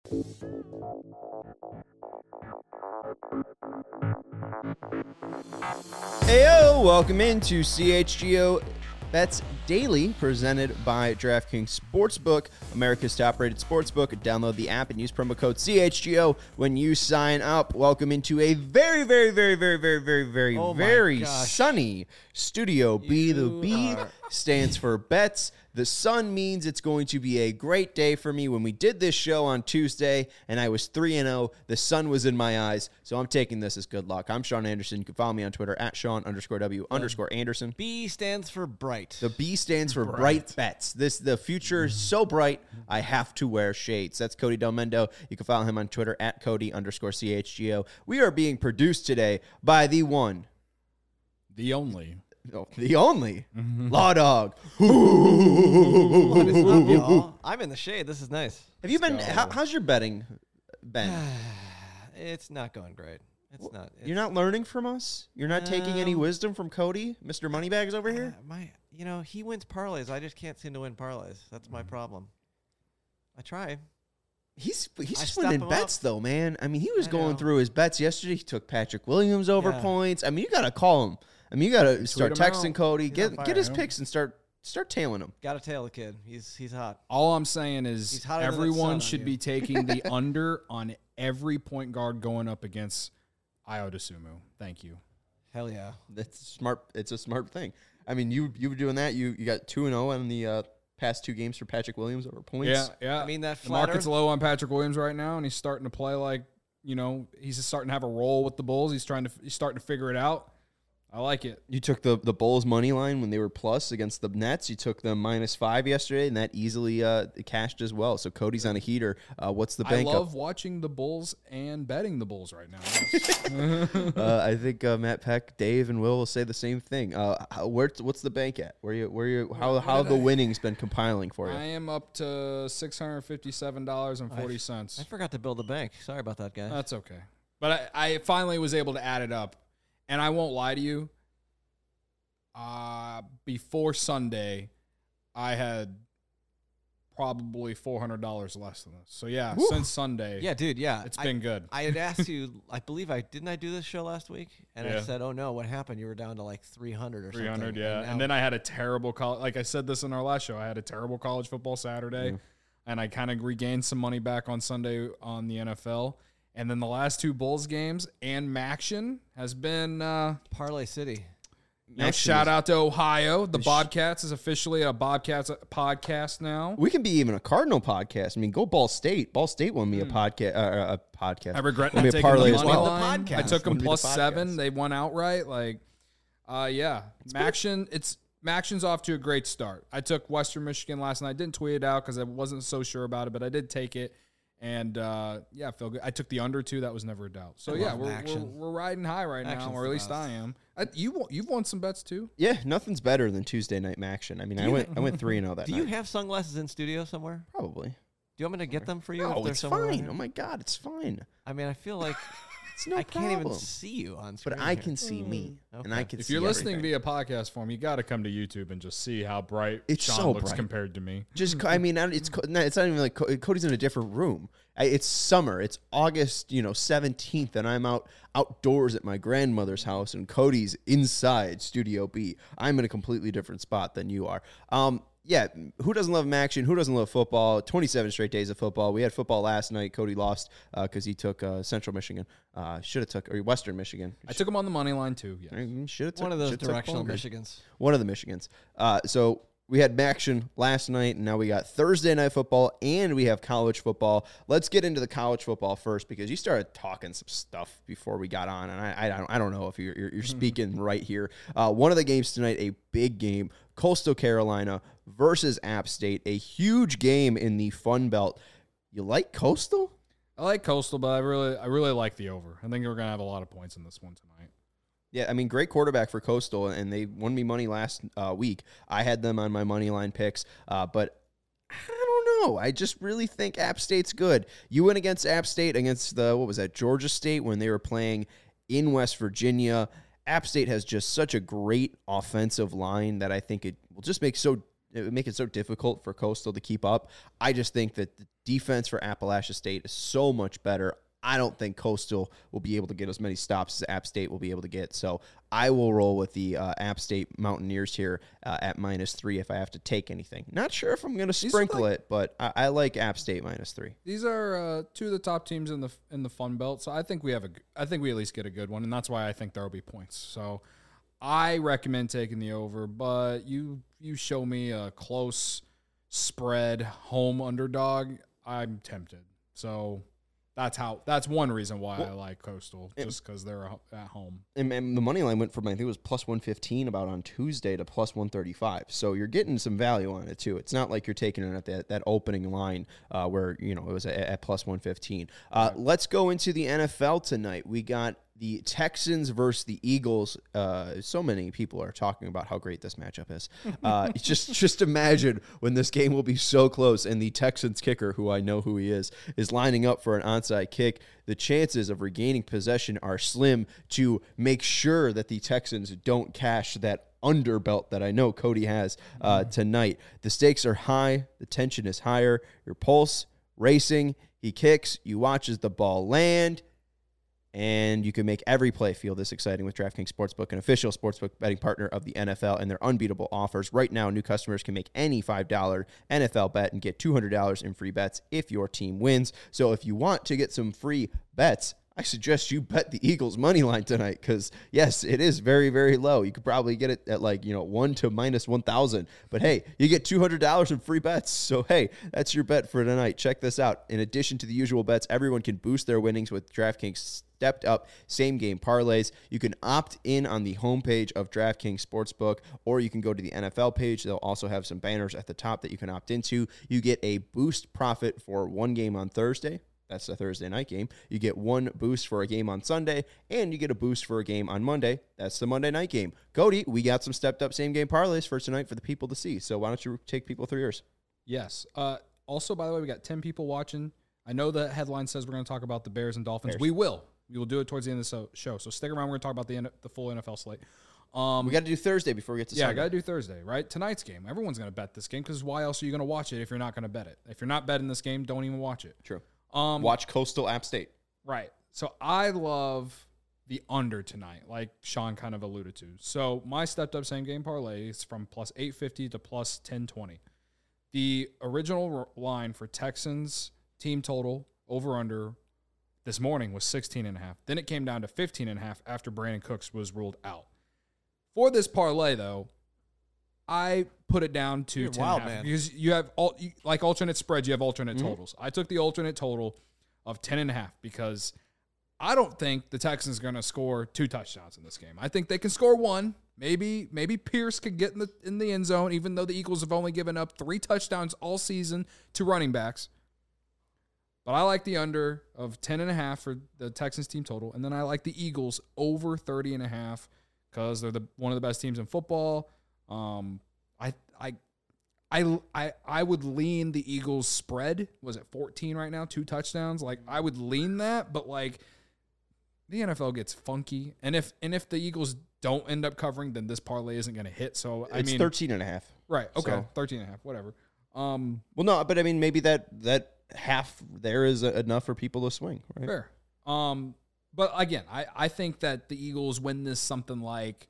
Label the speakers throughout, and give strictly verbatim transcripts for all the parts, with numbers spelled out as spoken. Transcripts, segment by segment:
Speaker 1: Heyo, welcome into C H G O Bets Daily, presented by DraftKings Sportsbook, America's top-rated sportsbook. Download the app and use promo code C H G O when you sign up. Welcome into a very, very, very, very, very, very, very,
Speaker 2: oh
Speaker 1: very sunny Studio B.
Speaker 2: You
Speaker 1: The B
Speaker 2: are...
Speaker 1: stands for bets. The sun means it's going to be a great day for me. When we did this show on Tuesday and I was three and oh, the sun was in my eyes, so I'm taking this as good luck. I'm Sean Anderson. You can follow me on Twitter at Sean underscore W underscore Anderson.
Speaker 2: B stands for bright.
Speaker 1: The B stands for bright,
Speaker 3: Bright.
Speaker 1: bets. This The future is so bright, I have to wear shades. That's Cody Del Mendo. You can follow him on Twitter at Cody underscore C H G O. We are being produced today by the one,
Speaker 3: The only.
Speaker 1: no, the only, Law Dog.
Speaker 2: What is up, y'all? I'm in the shade. This is nice.
Speaker 1: Have you been,
Speaker 3: go.
Speaker 1: how, how's your betting been?
Speaker 2: It's not going great. It's not. It's,
Speaker 1: You're not learning from us? You're not taking any
Speaker 2: Um,
Speaker 1: wisdom from Cody, Mister Moneybags over here?
Speaker 2: Uh, my, you know, he wins parlays. I just can't seem to win parlays. That's my problem. I try.
Speaker 1: He's he's
Speaker 2: I
Speaker 1: just
Speaker 2: step
Speaker 1: winning
Speaker 2: him
Speaker 1: bets,
Speaker 2: up.
Speaker 1: though, man. I mean, he was
Speaker 2: I
Speaker 1: going
Speaker 2: know.
Speaker 1: through his bets yesterday. He took Patrick Williams over
Speaker 2: Yeah.
Speaker 1: points. I mean, you got to call him. I mean, you got to start
Speaker 3: him
Speaker 1: texting
Speaker 3: out.
Speaker 1: Cody,
Speaker 2: He's
Speaker 1: get
Speaker 2: on fire,
Speaker 1: get his
Speaker 3: yeah.
Speaker 1: picks and start start tailing him.
Speaker 2: Got to tail the kid. He's he's hot.
Speaker 3: All I'm saying
Speaker 2: He's
Speaker 3: is
Speaker 2: hotter than that sun
Speaker 3: everyone
Speaker 2: on
Speaker 3: should
Speaker 2: you.
Speaker 3: be taking the under on every point guard going up against Io DeSumo. Thank you.
Speaker 2: Hell yeah.
Speaker 1: That's smart. It's a smart thing. I mean, you you were doing that. You you got two and zero on the uh, past two games for Patrick Williams over points.
Speaker 3: Yeah, yeah.
Speaker 2: I mean, that
Speaker 3: the
Speaker 2: flat
Speaker 3: market's
Speaker 2: earth-
Speaker 3: low on Patrick Williams right now, and he's starting to play like, you know, he's just starting to have a role with the Bulls. He's trying to he's starting to figure it out. I like it.
Speaker 1: You took the the Bulls money line when they were plus against the Nets. You took them minus five yesterday, and that easily uh, cashed as well. So Cody's on a heater. Uh, what's the
Speaker 3: I
Speaker 1: bank
Speaker 3: love
Speaker 1: up?
Speaker 3: watching the Bulls and betting the Bulls right now.
Speaker 1: uh, I think uh, Matt Peck, Dave, and Will will say the same thing. Uh, how, where what's the bank at? Where you where you how
Speaker 3: What
Speaker 1: how have
Speaker 3: did
Speaker 1: the
Speaker 3: I-
Speaker 1: winnings been compiling for you?
Speaker 3: I am up to six hundred fifty-seven dollars and forty
Speaker 2: I
Speaker 3: cents.
Speaker 2: forgot to build a bank. Sorry about that, guy.
Speaker 3: That's okay. But I, I finally was able to add it up. And I won't lie to you. Uh, before Sunday, I had probably four hundred dollars less than this. So, yeah,
Speaker 1: Woo.
Speaker 3: since Sunday,
Speaker 2: yeah, dude. Yeah,
Speaker 3: it's
Speaker 2: I-
Speaker 3: been good.
Speaker 2: I had asked you, I believe I didn't I do this show last week, and I
Speaker 3: Yeah.
Speaker 2: said, "Oh no, what happened? You were down to like three hundred or
Speaker 3: three hundred,
Speaker 2: something."
Speaker 3: yeah.
Speaker 2: now-
Speaker 3: And then I had a terrible college. Like I said this in our last show, I had a terrible college football Saturday,
Speaker 1: Yeah.
Speaker 3: and I kind of regained some money back on Sunday on the N F L. And then the last two Bulls games and Maction has been uh,
Speaker 2: Parlay City.
Speaker 3: nice.
Speaker 1: Maction
Speaker 3: Shout
Speaker 1: is-
Speaker 3: out to Ohio. The
Speaker 1: Sh-
Speaker 3: Bobcats is officially a Bobcats podcast now.
Speaker 1: We can be even a Cardinal podcast. I mean, go Ball State. Ball State won me a podcast. Uh, a podcast.
Speaker 3: I regret
Speaker 1: Won
Speaker 3: not
Speaker 1: me a
Speaker 3: taking
Speaker 1: parlay
Speaker 3: the
Speaker 1: as
Speaker 3: money
Speaker 1: well.
Speaker 3: line.
Speaker 2: The
Speaker 3: I
Speaker 2: podcast.
Speaker 3: took them
Speaker 1: Wouldn't be the
Speaker 3: plus seven.
Speaker 1: podcast.
Speaker 3: They won outright. Like, uh, yeah, Maction. It's Maction's off to a great start. I took Western Michigan last night. I didn't tweet it out because I wasn't so sure about it, but I did take it. And uh, yeah, I feel good. I took the under two. That was never a doubt. So
Speaker 2: I
Speaker 3: yeah,
Speaker 2: love
Speaker 3: we're, we're
Speaker 2: Maction.
Speaker 3: we're riding high right now,
Speaker 2: Maction's
Speaker 3: or
Speaker 2: the
Speaker 3: at least
Speaker 2: best.
Speaker 3: I am. I, you won- you've won some bets too.
Speaker 1: Yeah, nothing's better than Tuesday night action. I mean, I
Speaker 2: you-
Speaker 1: went I went three and zero that
Speaker 2: Do
Speaker 1: night.
Speaker 2: you have sunglasses in studio somewhere?
Speaker 1: Probably.
Speaker 2: Do you want me to get them for you? if
Speaker 1: No,
Speaker 2: they're
Speaker 1: it's
Speaker 2: somewhere around
Speaker 1: fine.
Speaker 2: here?
Speaker 1: Oh my God, it's fine.
Speaker 2: I mean, I feel like
Speaker 1: It's no
Speaker 2: I can't
Speaker 1: problem.
Speaker 2: even see you on screen.
Speaker 1: But I
Speaker 2: here.
Speaker 1: can see me, and
Speaker 2: Okay.
Speaker 1: I can.
Speaker 3: If
Speaker 1: see
Speaker 3: you're listening
Speaker 1: everything.
Speaker 3: via podcast form, you got to come to YouTube and just see how bright
Speaker 1: It's
Speaker 3: Sean
Speaker 1: so
Speaker 3: looks
Speaker 1: bright.
Speaker 3: compared to me.
Speaker 1: Just, co- I mean, I- it's co- no, it's not even like Co- Cody's in a different room. I- It's summer. It's August, you know, seventeenth, and I'm out outdoors at my grandmother's house, and Cody's inside Studio B. I'm in a completely different spot than you are. Um, yeah, who doesn't love action? Who doesn't love football? twenty-seven straight days of football. We had football last night. Cody lost because he took uh, Central Michigan. Uh, should have took or Western Michigan.
Speaker 3: I took him on the money line too. Yeah.
Speaker 1: Should have took
Speaker 2: one of those
Speaker 1: should've took
Speaker 2: directional
Speaker 1: longer.
Speaker 2: Michigans.
Speaker 1: One of the Michigans. Uh, so we had action last night, and now we got Thursday night football, and we have college football. Let's get into the college football first because you started talking some stuff before we got on, and I I don't, I don't know if you're you're, you're speaking right here. Uh, one of the games tonight, a big game, Coastal Carolina versus App State, a huge game in the Fun Belt. You like Coastal?
Speaker 3: I like Coastal, but I really, I really like the over. I think we're gonna have a lot of points in this one tonight.
Speaker 1: Yeah, I mean, great quarterback for Coastal, and they won me money last uh, week. I had them on my money line picks, uh, but I don't know. I just really think App State's good. You went against App State against the, what was that, Georgia State when they were playing in West Virginia. App State has just such a great offensive line that I think it will just make so it would make it so difficult for Coastal to keep up. I just think that the defense for Appalachia State is so much better. I don't think Coastal will be able to get as many stops as App State will be able to get. So I will roll with the uh, App State Mountaineers here uh, at minus three if I have to take anything. Not sure if I'm going to sprinkle like, it, but I, I like App State minus three.
Speaker 3: These are uh, two of the top teams in the in the Fun Belt, so I think we have a I think we at least get a good one, and that's why I think there will be points. So I recommend taking the over, but you you show me a close spread home underdog, I'm tempted. So. That's how. That's one reason why well, I like Coastal, just because they're at home.
Speaker 1: And, and the money line went from I think it was plus one fifteen about on Tuesday to plus one thirty five. So you're getting some value on it too. It's not like you're taking it at that, that opening line uh, where you know it was at, at plus one fifteen. Uh, right. Let's go into the N F L tonight. We got the Texans versus the Eagles. Uh, so many people are talking about how great this matchup is. Uh, just just imagine when this game will be so close and the Texans kicker, who I know who he is, is lining up for an onside kick. The chances of regaining possession are slim to make sure that the Texans don't cash that underbelt that I know Cody has uh, tonight. The stakes are high. The tension is higher. Your pulse racing. He kicks. You watch as the ball land. And you can make every play feel this exciting with DraftKings Sportsbook, an official sportsbook betting partner of the N F L, and their unbeatable offers. Right now, new customers can make any five dollar N F L bet and get two hundred dollars in free bets if your team wins. So if you want to get some free bets, I suggest you bet the Eagles money line tonight because, yes, it is very, very low. You could probably get it at like, you know, one to minus one thousand. But, hey, you get two hundred dollars in free bets. So, hey, that's your bet for tonight. Check this out. In addition to the usual bets, everyone can boost their winnings with DraftKings stepped up same game parlays. You can opt in on the homepage of DraftKings Sportsbook, or you can go to the N F L page. They'll also have some banners at the top that you can opt into. You get a boost profit for one game on Thursday. That's the Thursday night game. You get one boost for a game on Sunday, and you get a boost for a game on Monday. That's the Monday night game. Cody, we got some stepped up same game parlays for tonight for the people to see. So why don't you take people through yours?
Speaker 3: Yes. Uh, also, by the way, we got ten people watching. I know the headline says we're going to talk about the Bears and Dolphins.
Speaker 1: Bears.
Speaker 3: We will. We will do it towards the end of the show. So stick around. We're going to talk about the the full N F L slate. Um,
Speaker 1: we got to do Thursday before we get to
Speaker 3: yeah,
Speaker 1: Sunday.
Speaker 3: I got to do Thursday, right? Tonight's game. Everyone's going to bet this game because why else are you going to watch it if you're not going to bet it? If you're not betting this game, don't even watch it.
Speaker 1: True.
Speaker 3: Um,
Speaker 1: Watch Coastal App State.
Speaker 3: Right. So I love the under tonight, like Sean kind of alluded to. So my stepped up same game parlay is from plus eight fifty to plus ten twenty. The original r- line for Texans team total over under this morning was sixteen and a half. Then it came down to fifteen and a half after Brandon Cooks was ruled out. For this parlay, though, I put it down to
Speaker 2: You're
Speaker 3: ten
Speaker 2: wild,
Speaker 3: and a half
Speaker 2: man.
Speaker 3: because you have all you, like alternate spreads. You have alternate
Speaker 1: Mm-hmm.
Speaker 3: totals. I took the alternate total of ten and a half because I don't think the Texans are going to score two touchdowns in this game. I think they can score one. Maybe maybe Pierce could get in the in the end zone, even though the Eagles have only given up three touchdowns all season to running backs. But I like the under of ten and a half for the Texans team total, and then I like the Eagles over thirty and a half because they're the one of the best teams in football. Um, I I I I I would lean the Eagles spread. Was it fourteen right now? Two touchdowns. Like I would lean that, but like the N F L gets funky, and if and if the Eagles don't end up covering, then this parlay isn't going to hit. So I
Speaker 1: It's
Speaker 3: mean,
Speaker 1: thirteen and a half.
Speaker 3: right? Okay,
Speaker 1: So-
Speaker 3: thirteen and a half, whatever. Um,
Speaker 1: Well, no, but I mean, maybe that that half there is enough for people to swing, right?
Speaker 3: fair. Um, but again, I I think that the Eagles win this something like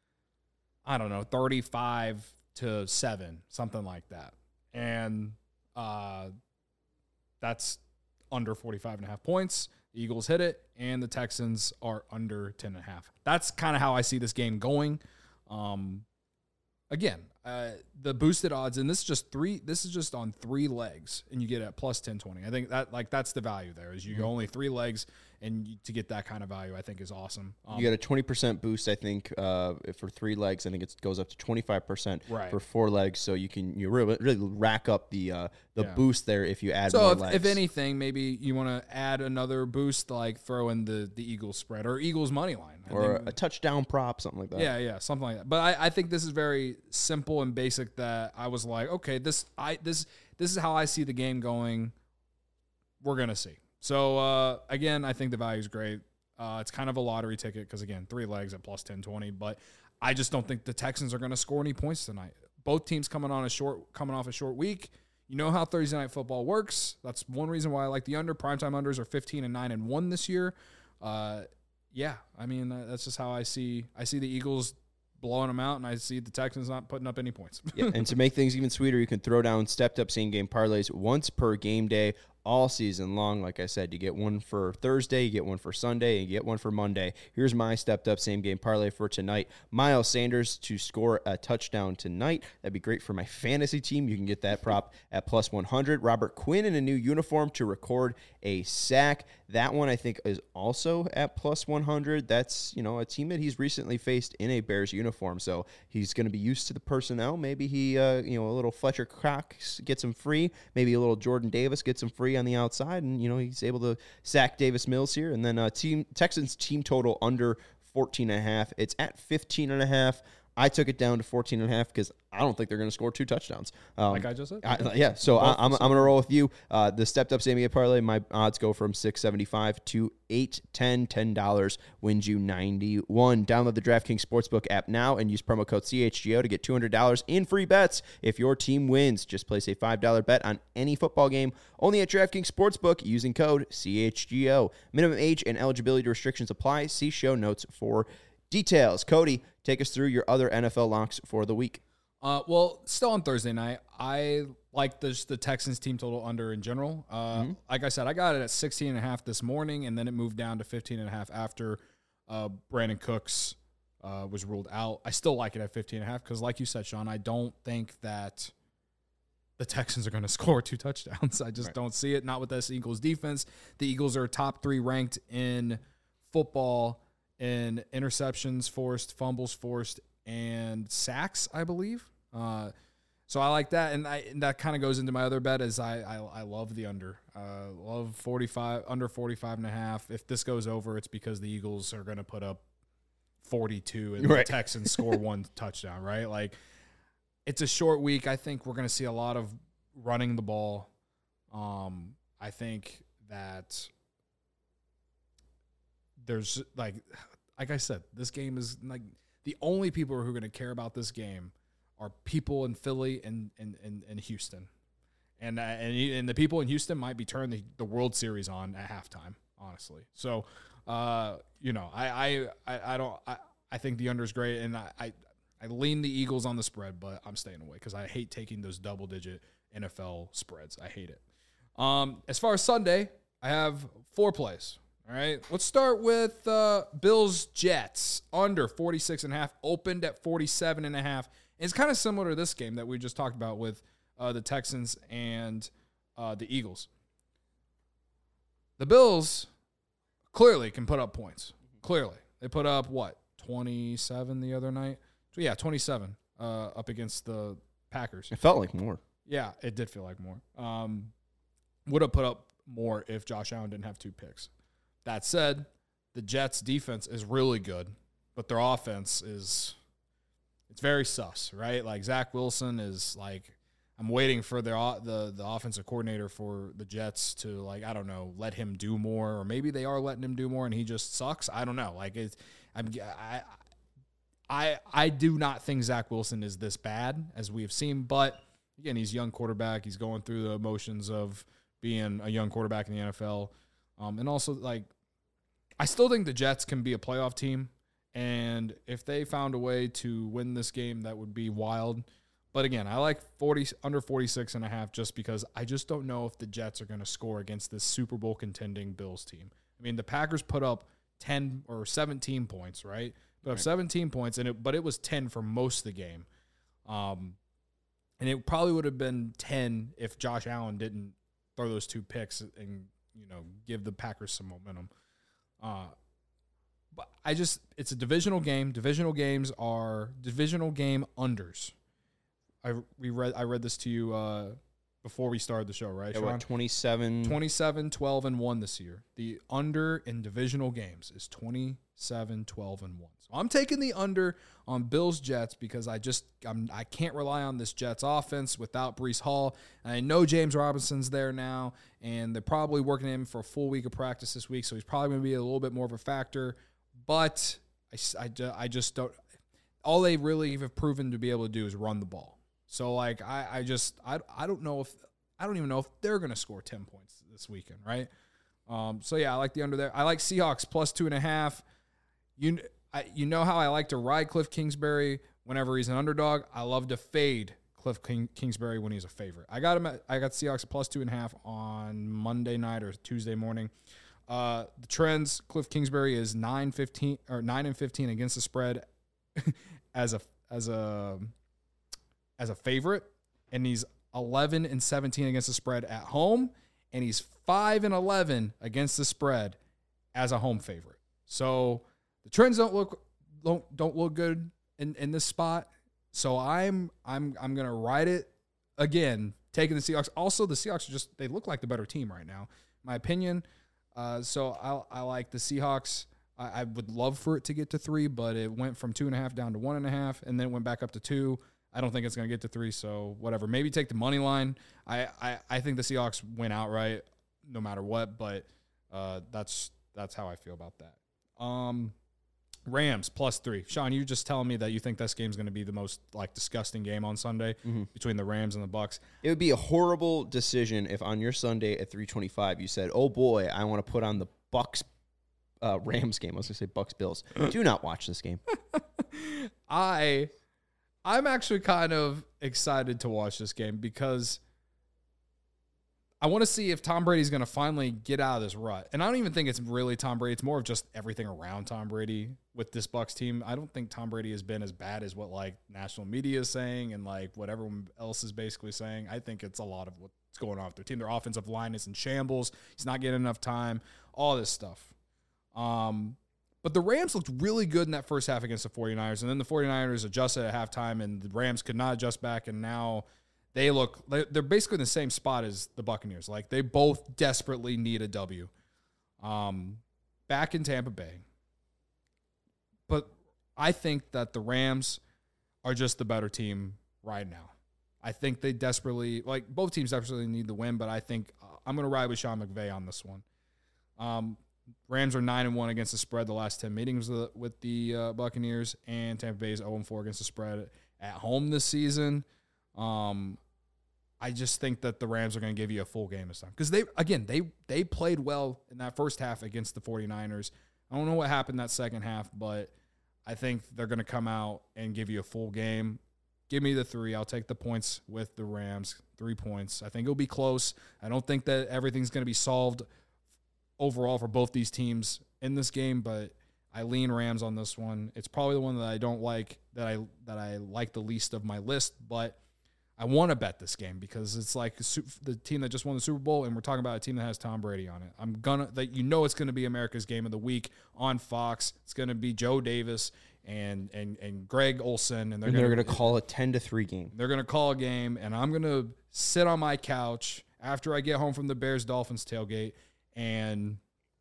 Speaker 3: I don't know, thirty-five to seven, something like that, and uh, that's under forty-five and a half points. The Eagles hit it, and the Texans are under ten and a half. That's kind of how I see this game going. Um, again, uh, the boosted odds, and this is just three. This is just on three legs, and you get it at plus ten twenty. I think that like that's the value there. Is you go only three legs, and you, to get that kind of value, I think is awesome. Um,
Speaker 1: You got a twenty percent boost, I think, uh, for three legs. I think it goes up to twenty-five percent
Speaker 3: Right.
Speaker 1: for four legs. So you can you really, really rack up the uh, the
Speaker 3: Yeah.
Speaker 1: boost there if you add
Speaker 3: So
Speaker 1: more
Speaker 3: if,
Speaker 1: legs.
Speaker 3: if anything, maybe you want to add another boost, like throw in the the Eagles spread or Eagles money line, I
Speaker 1: or
Speaker 3: think-
Speaker 1: a touchdown prop, something like that.
Speaker 3: yeah, yeah, something like that. But I, I think this is very simple and basic. That I was like, okay, this I this this is how I see the game going. We're gonna see. So uh, again, I think the value is great. Uh, it's kind of a lottery ticket because again, three legs at plus ten twenty. But I just don't think the Texans are going to score any points tonight. both teams coming on a short, coming off a short week. You know how Thursday night football works. That's one reason why I like the under. Primetime unders are fifteen and nine and one this year. Uh, yeah, I mean that's just how I see. I see the Eagles blowing them out, and I see the Texans not putting up any points.
Speaker 1: Yeah, and to make things even sweeter, you can throw down stepped up same game parlays once per game day all season long. Like I said, you get one for Thursday, you get one for Sunday, and you get one for Monday. Here's my stepped up same game parlay for tonight. Miles Sanders to score a touchdown tonight. That'd be great for my fantasy team. You can get that prop at plus one hundred. Robert Quinn in a new uniform to record a sack. That one I think is also at plus one hundred. That's, you know, a team that he's recently faced in a Bears uniform, so he's going to be used to the personnel. Maybe he, uh, you know, a little Fletcher Cox gets him free. Maybe a little Jordan Davis gets him free on the outside, and, you know, he's able to sack Davis Mills here. And then uh, team Texans team total under fourteen and a half. It's at fifteen and a half. I took it down to fourteen and a half because I don't think they're going to score two touchdowns. Um,
Speaker 3: like I just said.
Speaker 1: I, yeah, so I, I'm, I'm going to roll with you. Uh, the stepped up same game parlay, my odds go from six seventy-five to eight ten. ten dollars wins you ninety-one. Download the DraftKings Sportsbook app now and use promo code C H G O to get two hundred dollars in free bets if your team wins. Just place a five dollar bet on any football game only at DraftKings Sportsbook using code C H G O. Minimum age and eligibility restrictions apply. See show notes for details. Cody, take us through your other N F L locks for the week.
Speaker 3: Uh, well, still on Thursday night, I like the, the Texans team total under in general. Uh, mm-hmm. Like I said, I got it at sixteen and a half this morning, and then it moved down to fifteen and a half after uh, Brandon Cooks uh, was ruled out. I still like it at fifteen and a half because, like you said, Sean, I don't think that the Texans are going to score two touchdowns. I just right. don't see it. Not with this Eagles defense. The Eagles are top three ranked in football in interceptions forced, fumbles forced, and sacks, I believe. Uh, so I like that, and, I, and that kind of goes into my other bet is I I, I love the under. Uh, love forty-five, under forty-five and a half. If this goes over, it's because the Eagles are going to put up forty-two and right. the Texans score one touchdown, right? Like, it's a short week. I think we're going to see a lot of running the ball. Um, I think that there's, like, like I said, this game is, like, the only people who are going to care about this game are people in Philly and and, and, and Houston. And, uh, and and the people in Houston might be turning the, the World Series on at halftime, honestly. So, uh, you know, I I, I, I don't I, I think the under is great, and I, I I lean the Eagles on the spread, but I'm staying away because I hate taking those double digit N F L spreads. I hate it. Um, as far as Sunday, I have four plays. All right, let's start with uh, Bills Jets under forty-six and a half, opened at forty-seven and a half. It's kind of similar to this game that we just talked about with uh, the Texans and uh, the Eagles. The Bills clearly can put up points. Clearly. They put up, what, twenty-seven the other night? So, yeah, twenty-seven uh, up against the Packers.
Speaker 1: It felt like more.
Speaker 3: Yeah, it did feel like more. Um, would have put up more if Josh Allen didn't have two picks. That said, the Jets' defense is really good, but their offense is it's very sus, right? Like Zach Wilson is like I'm waiting for their the the offensive coordinator for the Jets to like I don't know let him do more, or maybe they are letting him do more and he just sucks. I don't know. Like it's I'm I I I do not think Zach Wilson is this bad as we have seen, but again he's a young quarterback. He's going through the emotions of being a young quarterback in the N F L. Um, and also, like, I still think the Jets can be a playoff team. And if they found a way to win this game, that would be wild. But again, I like forty under forty-six and a half just because I just don't know if the Jets are going to score against this Super Bowl contending Bills team. I mean, the Packers put up ten or seventeen points, right? Put up right. seventeen points, and it, but it was ten for most of the game. Um, and it probably would have been ten if Josh Allen didn't throw those two picks and, you know, give the Packers some momentum. Uh, but I just, it's a divisional game. Divisional games are divisional game unders. I we read I read this to you uh, before we started the show, right?
Speaker 1: Yeah, what, twenty-seven
Speaker 3: twenty-seven, twelve, and one this year. The under in divisional games is twenty-seven, twelve, and one. So I'm taking the under on Bills Jets because I just I'm, I can't rely on this Jets offense without Breece Hall. And I know James Robinson's there now, and they're probably working him for a full week of practice this week, so he's probably going to be a little bit more of a factor. But I, I, I just don't – all they really have proven to be able to do is run the ball. So like I, I just I I don't know if I don't even know if they're gonna score ten points this weekend, right? Um, so yeah, I like the under there. I like Seahawks plus two and a half. You I, you know how I like to ride Cliff Kingsbury whenever he's an underdog. I love to fade Cliff King, Kingsbury when he's a favorite. I got him. At, I got Seahawks plus two and a half on Monday night or Tuesday morning. Uh, the trends: Cliff Kingsbury is nine fifteen or nine and fifteen against the spread as a as a as a favorite, and he's eleven and seventeen against the spread at home, and he's five and eleven against the spread as a home favorite. So the trends don't look don't don't look good in, in this spot. So I'm I'm I'm gonna ride it again, taking the Seahawks. Also, the Seahawks are just they look like the better team right now, in my opinion. Uh, so I I like the Seahawks. I, I would love for it to get to three, but it went from two and a half down to one and a half, and then it went back up to two. I don't think it's going to get to three, so whatever. Maybe take the money line. I, I, I think the Seahawks win outright no matter what, but uh, that's that's how I feel about that. Um, Rams plus three. Sean, you just telling me that you think this game's going to be the most like disgusting game on Sunday mm-hmm. between the Rams and the Bucs.
Speaker 1: It would be a horrible decision if on your Sunday at three twenty-five you said, "Oh boy, I want to put on the Bucs uh, Rams game." I was going to say Bucs Bills. Do not watch this game.
Speaker 3: I. I'm actually kind of excited to watch this game because I want to see if Tom Brady's going to finally get out of this rut. And I don't even think it's really Tom Brady. It's more of just everything around Tom Brady with this Bucs team. I don't think Tom Brady has been as bad as what like national media is saying and like what everyone else is basically saying. I think it's a lot of what's going on with their team. Their offensive line is in shambles. He's not getting enough time, all this stuff. Um, But the Rams looked really good in that first half against the 49ers, and then the 49ers adjusted at halftime, and the Rams could not adjust back, and now they look – they're basically in the same spot as the Buccaneers. Like, they both desperately need a W. Um, back in Tampa Bay. But I think that the Rams are just the better team right now. I think they desperately – like, both teams desperately need the win, but I think uh, I'm going to ride with Sean McVay on this one. Um Rams are nine and one against the spread the last ten meetings with the, with the uh, Buccaneers, and Tampa Bay is zero and four against the spread at home this season. Um, I just think that the Rams are going to give you a full game this time because they again they they played well in that first half against the 49ers. I don't know what happened that second half, but I think they're going to come out and give you a full game. Give me the three. I'll take the points with the Rams. Three points. I think it'll be close. I don't think that everything's going to be solved overall for both these teams in this game, but I lean Rams on this one. It's probably the one that I don't like, that I that I like the least of my list, but I want to bet this game because it's like the team that just won the Super Bowl, and we're talking about a team that has Tom Brady on it. I'm gonna that you know it's going to be America's Game of the Week on Fox. It's going to be Joe Davis and and and Greg Olson, and they're
Speaker 1: and
Speaker 3: gonna,
Speaker 1: they're going to call a ten to three game.
Speaker 3: They're going to call a game, and I'm going to sit on my couch after I get home from the Bears Dolphins tailgate. And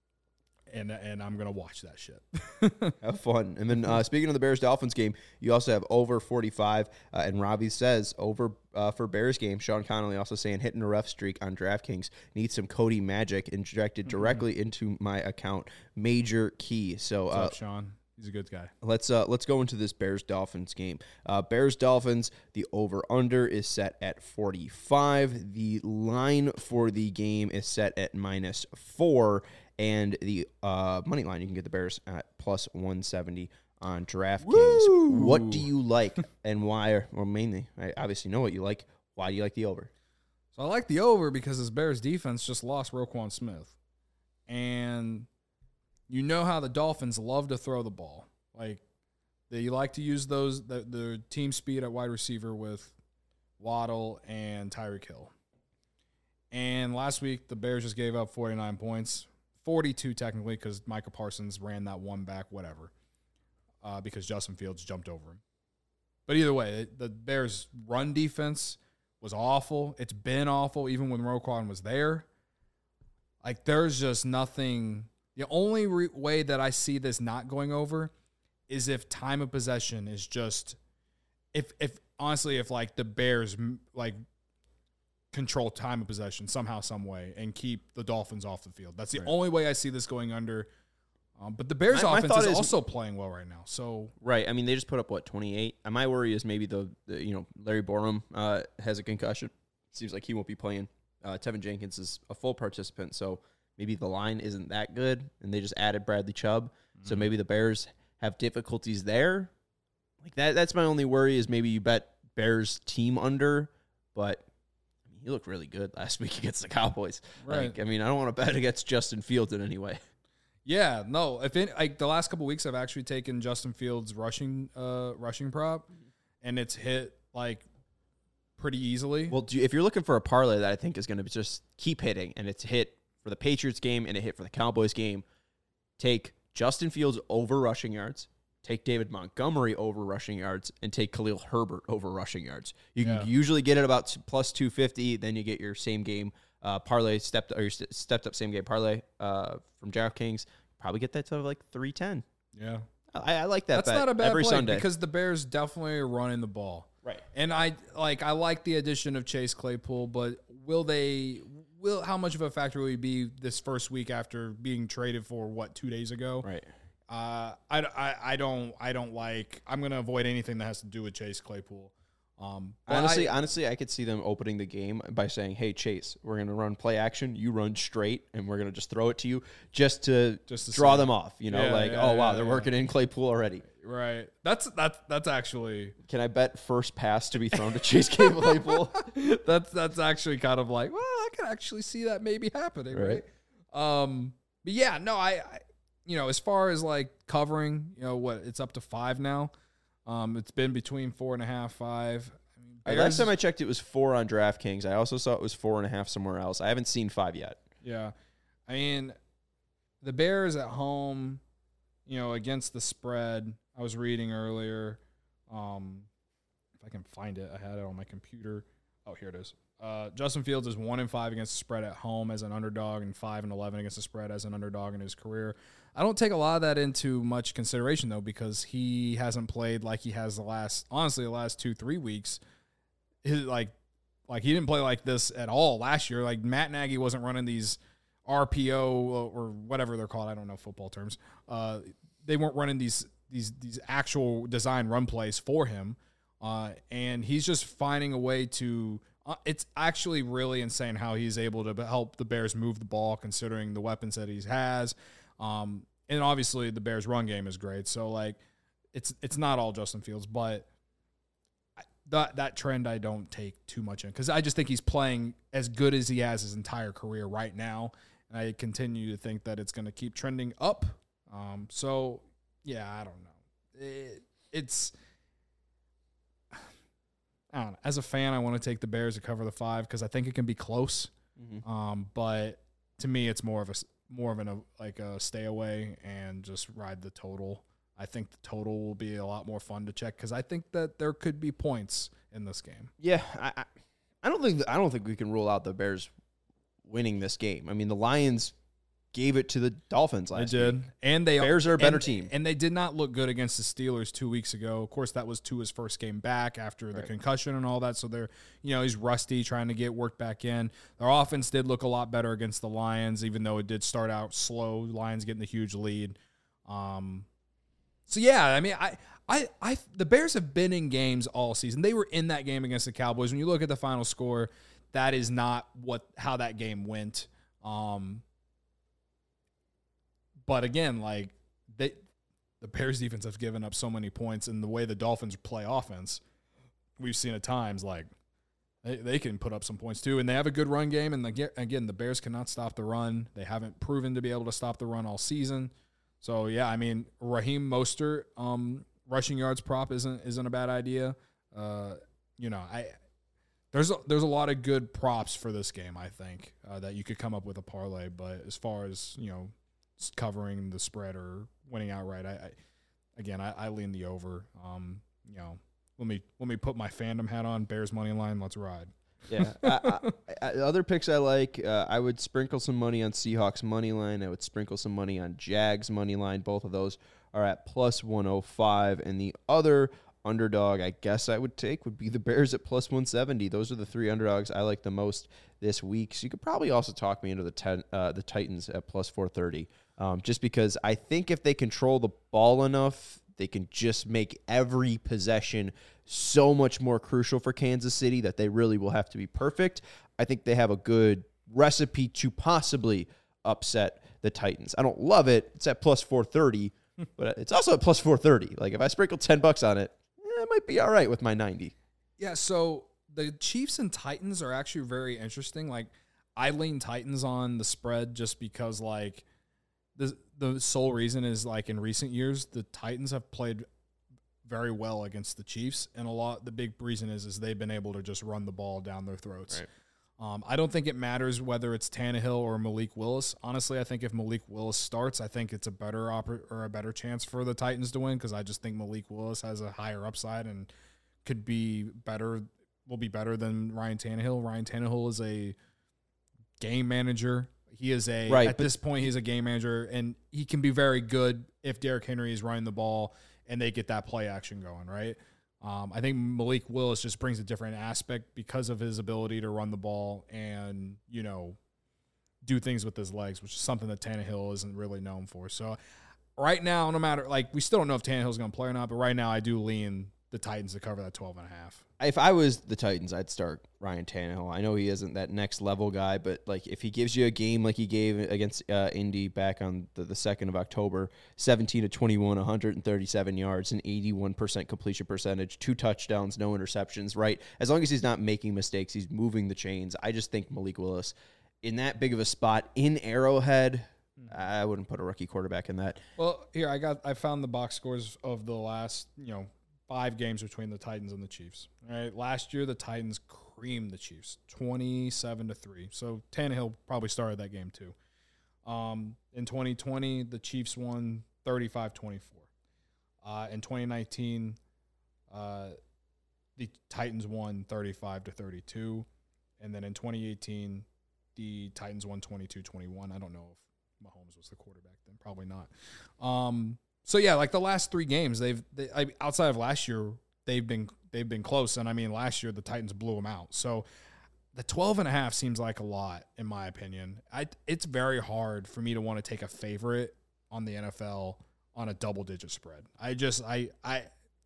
Speaker 3: and and I'm gonna watch that shit.
Speaker 1: Have fun. And then uh, speaking of the Bears Dolphins game, you also have over forty-five. Uh, and Robbie says over uh, for Bears game. Sean Connolly also saying hitting a rough streak on DraftKings. Need some Cody magic injected directly mm-hmm. into my account. Major key. So
Speaker 3: What's
Speaker 1: uh,
Speaker 3: up, Sean? He's a good guy.
Speaker 1: Let's uh, let's go into this Bears Dolphins game. Uh, Bears Dolphins. The over under is set at forty-five. The line for the game is set at minus four, and the uh, money line you can get the Bears at plus one seventy on DraftKings. Woo! What do you like and why? Or mainly, I obviously know what you like. Why do you like the over?
Speaker 3: So I like the over because this Bears defense just lost Roquan Smith, and you know how the Dolphins love to throw the ball. Like, they like to use those the, the team speed at wide receiver with Waddle and Tyreek Hill. And last week, the Bears just gave up forty-nine points, forty-two technically because Micah Parsons ran that one back, whatever, uh, because Justin Fields jumped over him. But either way, the Bears' run defense was awful. It's been awful even when Roquan was there. Like, there's just nothing – the only re- way that I see this not going over is if time of possession is just if if honestly if like the Bears like control time of possession somehow some way and keep the Dolphins off the field. That's the right. only way I see this going under. Um, but the Bears'
Speaker 1: My- my
Speaker 3: offense
Speaker 1: thought
Speaker 3: is
Speaker 1: is-
Speaker 3: also playing well right now. So
Speaker 1: Right. I mean, they just put up what twenty-eight. And my worry is maybe the, the you know Larry Borum uh, has a concussion. Seems like he won't be playing. Uh, Tevin Jenkins is a full participant, so maybe the line isn't that good, and they just added Bradley Chubb. Mm-hmm. So maybe the Bears have difficulties there. Like that. That's my only worry is maybe you bet Bears team under, but I mean, he looked really good last week against the Cowboys.
Speaker 3: Right.
Speaker 1: Like, I mean, I don't want to bet against Justin Fields in any way.
Speaker 3: yeah, no. If it, like the last couple weeks, I've actually taken Justin Fields rushing uh, rushing prop, and it's hit like pretty easily.
Speaker 1: Well, do you, if you're looking for a parlay that I think is going to just keep hitting, and it's hit for the Patriots game and it hit for the Cowboys game, take Justin Fields over rushing yards, take David Montgomery over rushing yards, and take Khalil Herbert over rushing yards. You
Speaker 3: Yeah.
Speaker 1: can usually get it about t- plus two fifty. Then you get your same game uh, parlay stepped or your st- stepped up same game parlay uh, from DraftKings. Probably get that to like three ten.
Speaker 3: yeah,
Speaker 1: I, I like that.
Speaker 3: that's
Speaker 1: bet
Speaker 3: not a bad
Speaker 1: every
Speaker 3: play
Speaker 1: Sunday
Speaker 3: because the Bears definitely are running the ball.
Speaker 1: Right.
Speaker 3: And I like I like the addition of Chase Claypool, but will they will how much of a factor will he be this first week after being traded for what two days ago?
Speaker 1: Right.
Speaker 3: Uh, I, I, I don't I don't like I'm gonna avoid anything that has to do with Chase Claypool. Um, but
Speaker 1: Honestly,
Speaker 3: I,
Speaker 1: honestly, I could see them opening the game by saying, "Hey, Chase, we're going to run play action. You run straight, and we're going to just throw it to you, just to,
Speaker 3: Just to
Speaker 1: draw
Speaker 3: see.
Speaker 1: them off." You know,
Speaker 3: Yeah,
Speaker 1: like,
Speaker 3: yeah,
Speaker 1: "Oh wow,
Speaker 3: yeah,
Speaker 1: they're
Speaker 3: yeah.
Speaker 1: working in Claypool already."
Speaker 3: right. That's that's that's actually
Speaker 1: Can I bet first pass to be thrown to Chase Claypool?
Speaker 3: that's that's actually kind of like, well, I can actually see that maybe happening, right?
Speaker 1: Right.
Speaker 3: Um, but yeah, no, I, I, you know, as far as like covering, you know, what it's up to five now. Um, it's been between four and a half, five. I mean,
Speaker 1: Uh, Last time I checked, it was four on DraftKings. I also saw it was four and a half somewhere else. I haven't seen five yet.
Speaker 3: yeah, I mean, the Bears at home, you know, against the spread. I was reading earlier. Um, if I can find it, I had it on my computer. Oh, here it is. Uh, Justin Fields is one and five against the spread at home as an underdog, and five and eleven against the spread as an underdog in his career. I don't take a lot of that into much consideration though, because he hasn't played like he has the last, honestly, the last two three weeks. His like, like he didn't play like this at all last year. Like Matt Nagy wasn't running these R P O or whatever they're called. I don't know football terms. Uh, they weren't running these these these actual design run plays for him, uh, and he's just finding a way to. Uh, it's actually really insane how he's able to help the Bears move the ball, considering the weapons that he has. Um, and obviously, the Bears' run game is great. So, like, it's it's not all Justin Fields, but I, that that trend I don't take too much in because I just think he's playing as good as he has his entire career right now, and I continue to think that it's going to keep trending up. Um, so, yeah, I don't know. It, it's. I don't know. As a fan, I want to take the Bears to cover the five because I think it can be close.
Speaker 1: Mm-hmm.
Speaker 3: Um, but to me, it's more of a more of an a, like a stay away and just ride the total. I think the total will be a lot more fun to check because I think that there could be points in this game.
Speaker 1: Yeah, I, I, I don't think I don't think we can rule out the Bears winning this game. I mean, the Lions gave it to the Dolphins last
Speaker 3: They did,
Speaker 1: week.
Speaker 3: and they
Speaker 1: Bears are a better
Speaker 3: and,
Speaker 1: team.
Speaker 3: and they did not look good against the Steelers two weeks ago. Of course, that was Tua's first game back after the
Speaker 1: Right.
Speaker 3: concussion and all that. So they're, you know, he's rusty, trying to get worked back in. Their offense did look a lot better against the Lions, even though it did start out slow. Lions getting the huge lead. Um, so yeah, I mean, I, I, I, the Bears have been in games all season. They were in that game against the Cowboys. When you look at the final score, that is not what how that game went. Um, But again, like they, the Bears defense have given up so many points, and the way the Dolphins play offense, we've seen at times like they, they can put up some points too, and they have a good run game. And the, again, the Bears cannot stop the run. They haven't proven to be able to stop the run all season. So yeah, I mean Raheem Mostert um, rushing yards prop isn't isn't a bad idea. Uh, you know, I there's a, there's a lot of good props for this game. I think uh, that you could come up with a parlay, but as far as you know. Covering the spread or winning outright, I, I again I, I lean the over. Um, you know, let me let me put my fandom hat on. Bears money line, let's ride.
Speaker 1: Yeah. I, I, I, other picks I like, uh, I would sprinkle some money on Seahawks money line. I would sprinkle some money on Jags money line. Both of those are at plus one oh five, and the other underdog I guess I would take would be the Bears at plus one seventy. Those are the three underdogs I like the most this week. So you could probably also talk me into the ten, uh, the Titans at plus four thirty, um, just because I think if they control the ball enough, they can just make every possession so much more crucial for Kansas City that they really will have to be perfect. I think they have a good recipe to possibly upset the Titans. I don't love it. It's at plus four thirty, but it's also at plus four thirty. Like if I sprinkle ten bucks on it, eh, it might be all right with my ninety.
Speaker 3: Yeah, so the Chiefs and Titans are actually very interesting. Like I lean Titans on the spread just because like the the sole reason is like in recent years the Titans have played very well against the Chiefs, and a lot the big reason is is they've been able to just run the ball down their throats.
Speaker 1: Right.
Speaker 3: Um, I don't think it matters whether it's Tannehill or Malik Willis. Honestly, I think if Malik Willis starts, I think it's a better oper- or a better chance for the Titans to win because I just think Malik Willis has a higher upside and could be better, will be better than Ryan Tannehill. Ryan Tannehill is a game manager. He is a
Speaker 1: right,
Speaker 3: at this point he's a game manager, and he can be very good if Derrick Henry is running the ball and they get that play action going, right? Um, I think Malik Willis just brings a different aspect because of his ability to run the ball and, you know, do things with his legs, which is something that Tannehill isn't really known for. So right now, no matter, like, we still don't know if Tannehill's going to play or not, but right now I do lean the Titans to cover that twelve and a half.
Speaker 1: If I was the Titans, I'd start Ryan Tannehill. I know he isn't that next level guy, but like if he gives you a game like he gave against uh, Indy back on the, the second of October, seventeen to twenty-one, one hundred thirty-seven yards, and eighty-one percent completion percentage, two touchdowns, no interceptions, right? As long as he's not making mistakes, he's moving the chains. I just think Malik Willis in that big of a spot in Arrowhead, I wouldn't put a rookie quarterback in that.
Speaker 3: Well, here I got I found the box scores of the last, you know, five games between the Titans and the Chiefs. All right, last year the Titans creamed the Chiefs, twenty-seven to three. So Tannehill probably started that game too. Um, in twenty twenty, the Chiefs won thirty-five twenty-four. Uh, in twenty nineteen, uh, the Titans won thirty-five to thirty-two, and then in twenty eighteen, the Titans won twenty-two twenty-one. I don't know if Mahomes was the quarterback then, probably not. Um, So yeah, like the last three games, they've they, I, outside of last year, they've been they've been close. And I mean, last year the Titans blew them out. So the twelve and a half seems like a lot in my opinion. I it's very hard for me to want to take a favorite on the N F L on a double digit spread. I just I I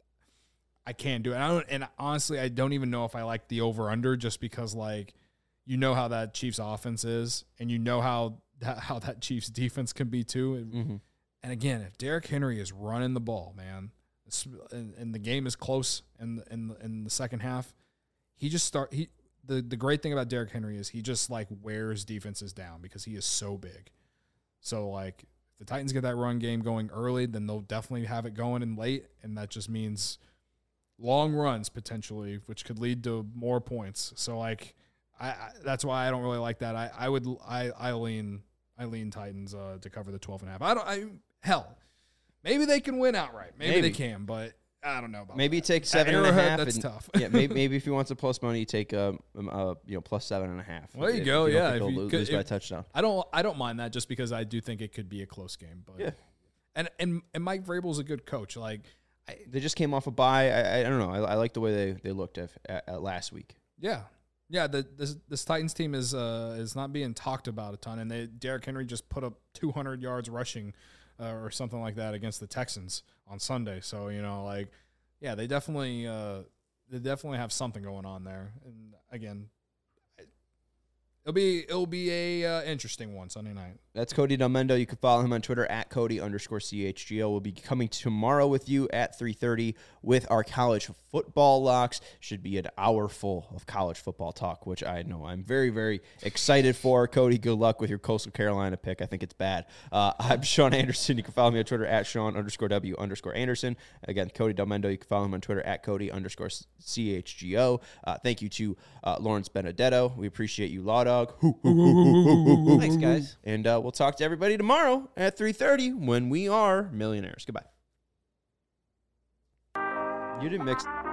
Speaker 3: I can't do it. And, I don't, and honestly, I don't even know if I like the over under just because like you know how that Chiefs offense is, and you know how that, how that Chiefs defense can be too.
Speaker 1: Mm-hmm.
Speaker 3: And again, if Derrick Henry is running the ball, man, and, and the game is close in the, in the, in the second half, he just start he the, the great thing about Derrick Henry is he just like wears defenses down because he is so big. So like if the Titans get that run game going early, then they'll definitely have it going in late, and that just means long runs potentially, which could lead to more points. So like I, I that's why I don't really like that. I, I would I I lean I lean Titans uh, to cover the twelve and a half. I don't I Hell, maybe they can win outright. Maybe, maybe. they can, but I don't know about
Speaker 1: maybe
Speaker 3: that.
Speaker 1: take seven and a half.
Speaker 3: That's
Speaker 1: and,
Speaker 3: tough.
Speaker 1: yeah, maybe, maybe if you want some plus money, you take um, um uh, you know plus seven and a half.
Speaker 3: Well, there you
Speaker 1: if,
Speaker 3: go.
Speaker 1: If you
Speaker 3: yeah, if
Speaker 1: you
Speaker 3: you
Speaker 1: lose,
Speaker 3: could,
Speaker 1: lose by
Speaker 3: if,
Speaker 1: a touchdown.
Speaker 3: I don't. I don't mind that just because I do think it could be a close game. But
Speaker 1: yeah,
Speaker 3: and and and Mike Vrabel's a good coach. Like
Speaker 1: I, they just came off a bye. I, I don't know. I, I like the way they, they looked at, at, at last week.
Speaker 3: Yeah. Yeah, the, this this Titans team is uh, is not being talked about a ton, and they Derrick Henry just put up two hundred yards rushing. Uh, or something like that against the Texans on Sunday. So, you know, like, yeah, they definitely uh, they definitely have something going on there. And again, it'll be it'll be a uh, interesting one Sunday night.
Speaker 1: That's Cody Delmendo. You can follow him on Twitter at Cody underscore C H G O. We'll be coming tomorrow with you at three thirty with our college football locks. Should be an hour full of college football talk, which I know I'm very, very excited for. Cody, good luck with your Coastal Carolina pick. I think it's bad. Uh, I'm Sean Anderson. You can follow me on Twitter at Sean underscore W underscore Anderson. Again, Cody Delmendo. You can follow him on Twitter at Cody underscore C H G O. Uh, thank you to uh, Lawrence Benedetto. We appreciate you, Law Dog.
Speaker 2: Thanks, guys.
Speaker 1: And uh, we'll talk to everybody tomorrow at three thirty when we are millionaires. Goodbye. You didn't mix...